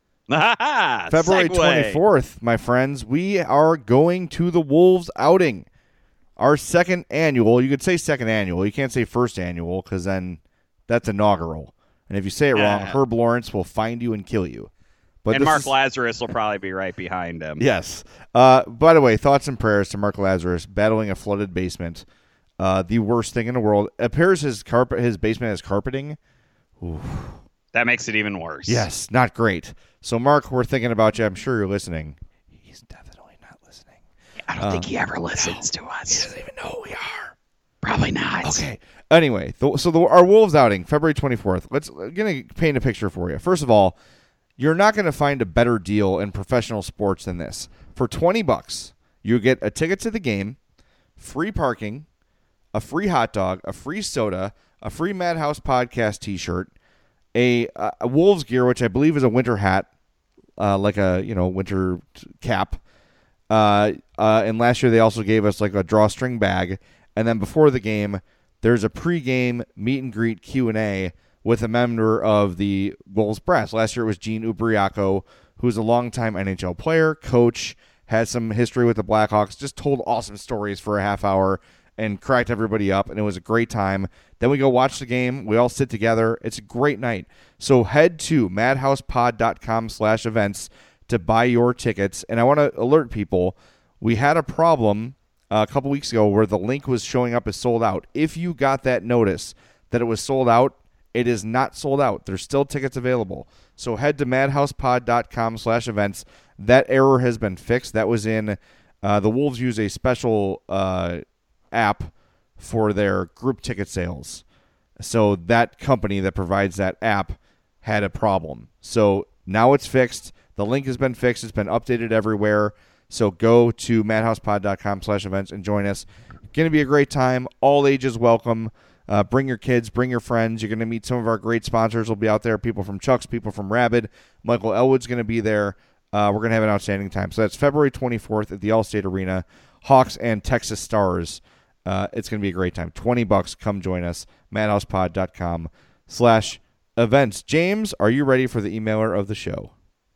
February twenty-fourth, my friends, we are going to the Wolves outing. Our second annual. You could say second annual. You can't say first annual, because then that's inaugural. And if you say it wrong, uh, Herb Lawrence will find you and kill you. But and Mark is, Lazarus will probably be right behind him. Yes. Uh, by the way, thoughts and prayers to Mark Lazarus battling a flooded basement. Uh, the worst thing in the world. It appears his carpet, his basement has carpeting. Oof. That makes it even worse. Yes, not great. So, Mark, we're thinking about you. I'm sure you're listening. He's definitely not listening. I don't um, think he ever listens no, to us. He doesn't even know who we are. Probably not. Okay. Anyway, the, so the, our Wolves outing, February twenty-fourth. Let's gonna paint a picture for you. First of all, you're not going to find a better deal in professional sports than this. For twenty bucks, you get a ticket to the game, free parking, a free hot dog, a free soda, a free Madhouse Podcast T-shirt, a, a Wolves gear, which I believe is a winter hat, uh, like a you know winter cap. Uh, uh, and last year they also gave us like a drawstring bag. And then before the game, there's a pregame meet and greet Q and A with a member of the Wolves brass. Last year it was Gene Ubriaco, who's a longtime N H L player, coach, had some history with the Blackhawks, just told awesome stories for a half hour and cracked everybody up, and it was a great time. Then we go watch the game. We all sit together. It's a great night. So head to madhousepod.com slash events to buy your tickets. And I want to alert people, we had a problem a couple weeks ago where the link was showing up as sold out. If you got that notice that it was sold out, it is not sold out. There's still tickets available. So head to madhousepod.com slash events. That error has been fixed. That was in uh, the Wolves use a special uh, app for their group ticket sales. So that company that provides that app had a problem. So now it's fixed. The link has been fixed. It's been updated everywhere. So go to madhousepod.com slash events and join us. Going to be a great time. All ages welcome. Uh, bring your kids. Bring your friends. You're going to meet some of our great sponsors will be out there. People from Chuck's, people from Rabid. Michael Elwood's going to be there. Uh, we're going to have an outstanding time. So that's February twenty-fourth at the Allstate Arena. Hawks and Texas Stars. Uh, it's going to be a great time. twenty bucks. Come join us. madhousepod.com slash events. James, are you ready for the emailer of the show?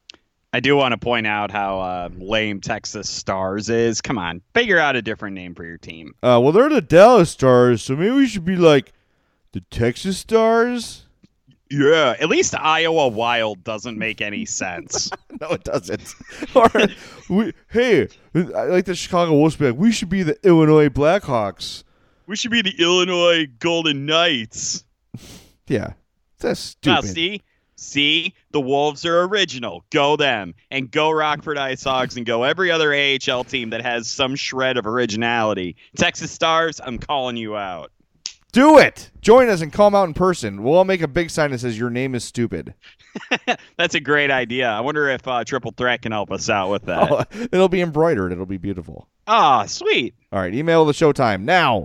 I do want to point out how uh, lame Texas Stars is. Come on, figure out a different name for your team. Uh, well, they're the Dallas Stars, so maybe we should be like the Texas Stars? Yeah, at least Iowa Wild doesn't make any sense. No, it doesn't. Or, we, hey, I like the Chicago Wolves be like, we should be the Illinois Blackhawks. We should be the Illinois Golden Knights. Yeah, that's stupid. Now, see? See, the Wolves are original. Go them. And go Rockford Ice Hogs and go every other A H L team that has some shred of originality. Texas Stars, I'm calling you out. Do it. Join us and call them out in person. We'll all make a big sign that says your name is stupid. That's a great idea. I wonder if uh, Triple Threat can help us out with that. Oh, it'll be embroidered. It'll be beautiful. Ah, sweet. All right, email the Showtime now.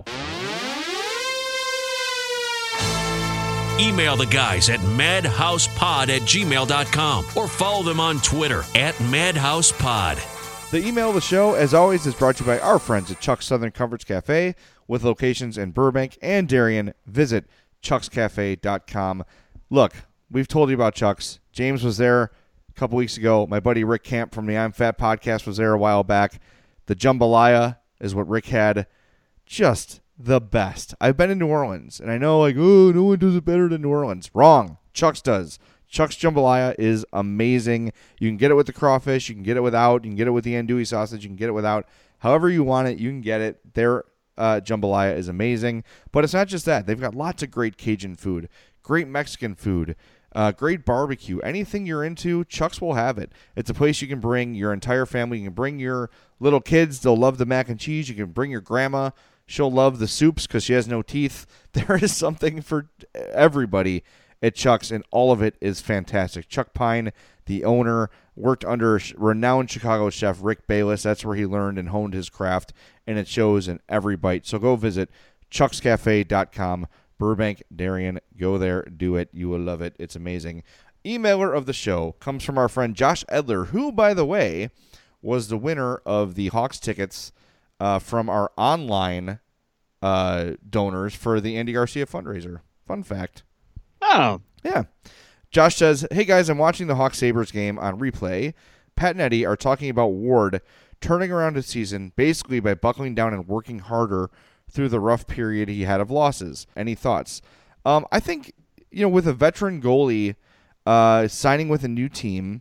Email the guys at madhousepod at gmail dot com or follow them on Twitter at madhousepod. The email of the show, as always, is brought to you by our friends at Chuck's Southern Comforts Cafe with locations in Burbank and Darien. Visit chucks cafe dot com. Look, we've told you about Chuck's. James was there a couple weeks ago. My buddy Rick Camp from the I'm Fat podcast was there a while back. The jambalaya is what Rick had. Just the best. I've been in New Orleans, and I know, like, oh, no one does it better than New Orleans. Wrong. Chuck's does. Chuck's jambalaya is amazing. You can get it with the crawfish. You can get it without. You can get it with the andouille sausage. You can get it without. However you want it, you can get it. Their uh, jambalaya is amazing. But it's not just that. They've got lots of great Cajun food, great Mexican food, uh, great barbecue. Anything you're into, Chuck's will have it. It's a place you can bring your entire family. You can bring your little kids. They'll love the mac and cheese. You can bring your grandma. She'll love the soups because she has no teeth. There is something for everybody at Chuck's, and all of it is fantastic. Chuck Pine, the owner, worked under renowned Chicago chef Rick Bayless. That's where he learned and honed his craft, and it shows in every bite. So go visit chucks cafe dot com, Burbank, Darien. Go there, do it. You will love it. It's amazing. Emailer of the show comes from our friend Josh Edler, who, by the way, was the winner of the Hawks tickets Uh, from our online uh, donors for the Andy Garcia fundraiser. Fun fact. Oh. Yeah. Josh says, hey, guys, I'm watching the Hawks Sabres game on replay. Pat and Eddie are talking about Ward turning around his season basically by buckling down and working harder through the rough period he had of losses. Any thoughts? Um, I think, you know, with a veteran goalie uh, signing with a new team,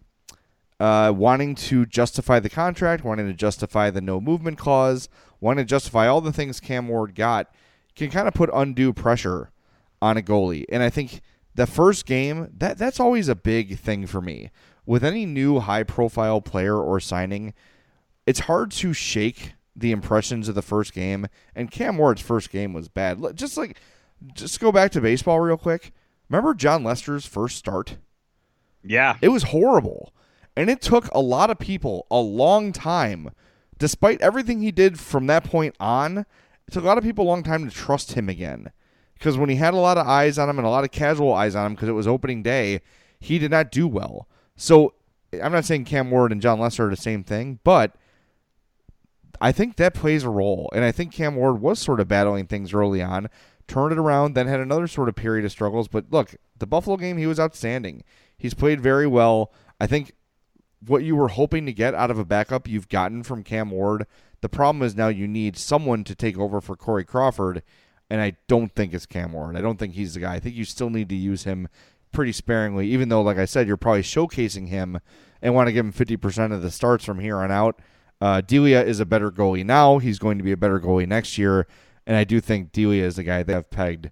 Uh, wanting to justify the contract, wanting to justify the no movement clause, wanting to justify all the things Cam Ward got, can kind of put undue pressure on a goalie. And I think the first game, that that's always a big thing for me. With any new high-profile player or signing, it's hard to shake the impressions of the first game, and Cam Ward's first game was bad. Just like, just go back to baseball real quick. Remember John Lester's first start? Yeah. It was horrible, and it took a lot of people a long time, despite everything he did from that point on, it took a lot of people a long time to trust him again. Because when he had a lot of eyes on him and a lot of casual eyes on him because it was opening day, he did not do well. So I'm not saying Cam Ward and John Lester are the same thing, but I think that plays a role. And I think Cam Ward was sort of battling things early on, turned it around, then had another sort of period of struggles. But look, the Buffalo game, he was outstanding. He's played very well. I think what you were hoping to get out of a backup, you've gotten from Cam Ward. The problem is now you need someone to take over for Corey Crawford. And I don't think it's Cam Ward. I don't think he's the guy. I think you still need to use him pretty sparingly, even though, like I said, you're probably showcasing him and want to give him fifty percent of the starts from here on out. Uh, Delia is a better goalie now. He's going to be a better goalie next year. And I do think Delia is the guy they have pegged.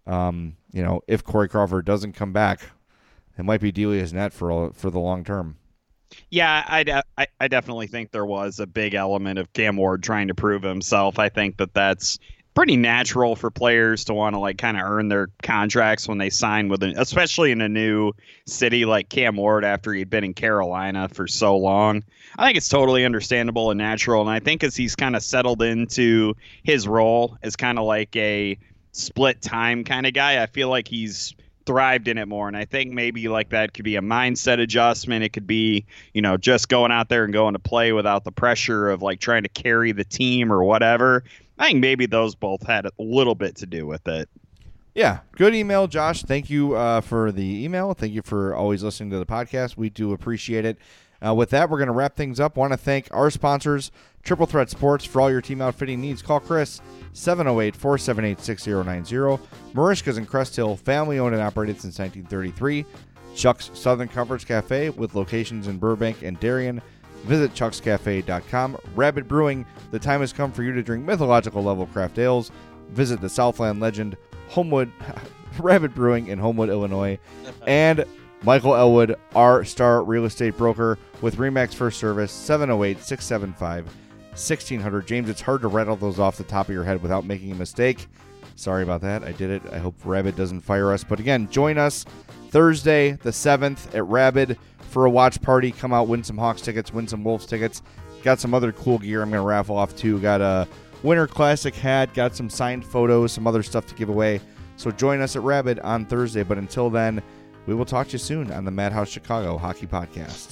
Um, you know, if Corey Crawford doesn't come back, it might be Delia's net for, for the long term. Yeah, I, de- I, I definitely think there was a big element of Cam Ward trying to prove himself. I think that that's pretty natural for players to want to like kind of earn their contracts when they sign with an, especially in a new city like Cam Ward after he'd been in Carolina for so long. I think it's totally understandable and natural. And I think as he's kind of settled into his role as kind of like a split time kind of guy, I feel like he's thrived in it more. And I think maybe like that could be a mindset adjustment. It could be, you know, just going out there and going to play without the pressure of like trying to carry the team or whatever. I think maybe those both had a little bit to do with it. Yeah, good email, Josh. Thank you uh, for the email. Thank you for always listening to the podcast. We do appreciate it. Uh, with that, we're going to wrap things up. Want to thank our sponsors, Triple Threat Sports. For all your team outfitting needs, call Chris, seven oh eight, four seven eight, six oh nine oh. Marishka's in Crest Hill, family-owned and operated since nineteen thirty-three. Chuck's Southern Comforts Cafe with locations in Burbank and Darien. Visit chucks cafe dot com. Rabbit Brewing, the time has come for you to drink mythological level craft ales. Visit the Southland legend, Homewood, Rabbit Brewing in Homewood, Illinois. And Michael Elwood, our star real estate broker with RE/MAX First Service, seven oh eight, six seven five, one six hundred. James, it's hard to rattle those off the top of your head without making a mistake. Sorry about that. I did it. I hope Rabbit doesn't fire us. But again, join us Thursday the seventh at Rabbit for a watch party. Come out, win some Hawks tickets, win some Wolves tickets. Got some other cool gear I'm going to raffle off too. Got a Winter Classic hat, got some signed photos, some other stuff to give away. So join us at Rabbit on Thursday. But until then, we will talk to you soon on the Madhouse Chicago Hockey Podcast.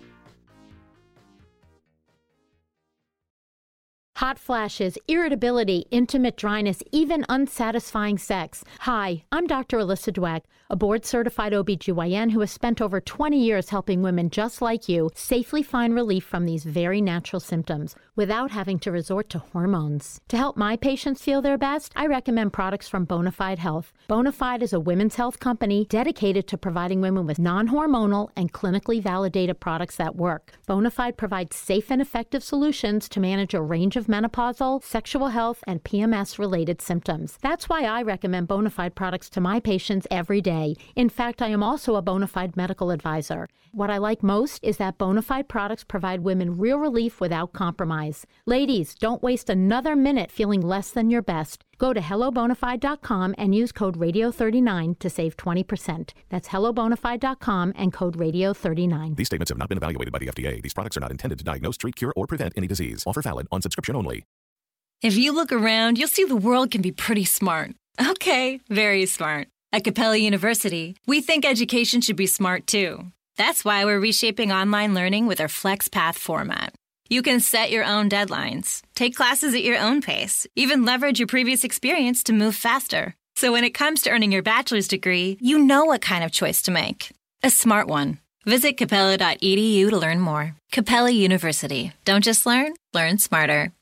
Hot flashes, irritability, intimate dryness, even unsatisfying sex. Hi, I'm Doctor Alyssa Dweck, a board-certified O B G Y N who has spent over twenty years helping women just like you safely find relief from these very natural symptoms without having to resort to hormones. To help my patients feel their best, I recommend products from Bonafide Health. Bonafide is a women's health company dedicated to providing women with non-hormonal and clinically validated products that work. Bonafide provides safe and effective solutions to manage a range of menopausal, sexual health, and P M S-related symptoms. That's why I recommend Bonafide products to my patients every day. In fact, I am also a Bonafide medical advisor. What I like most is that Bonafide products provide women real relief without compromise. Ladies, don't waste another minute feeling less than your best. Go to hello bonafide dot com and use code radio thirty-nine to save twenty percent. That's hello bonafide dot com and code radio thirty-nine. These statements have not been evaluated by the F D A. These products are not intended to diagnose, treat, cure, or prevent any disease. Offer valid on subscription only. If you look around, you'll see the world can be pretty smart. Okay, very smart. At Capella University, we think education should be smart too. That's why we're reshaping online learning with our FlexPath format. You can set your own deadlines, take classes at your own pace, even leverage your previous experience to move faster. So when it comes to earning your bachelor's degree, you know what kind of choice to make. A smart one. Visit capella dot e d u to learn more. Capella University. Don't just learn, learn smarter.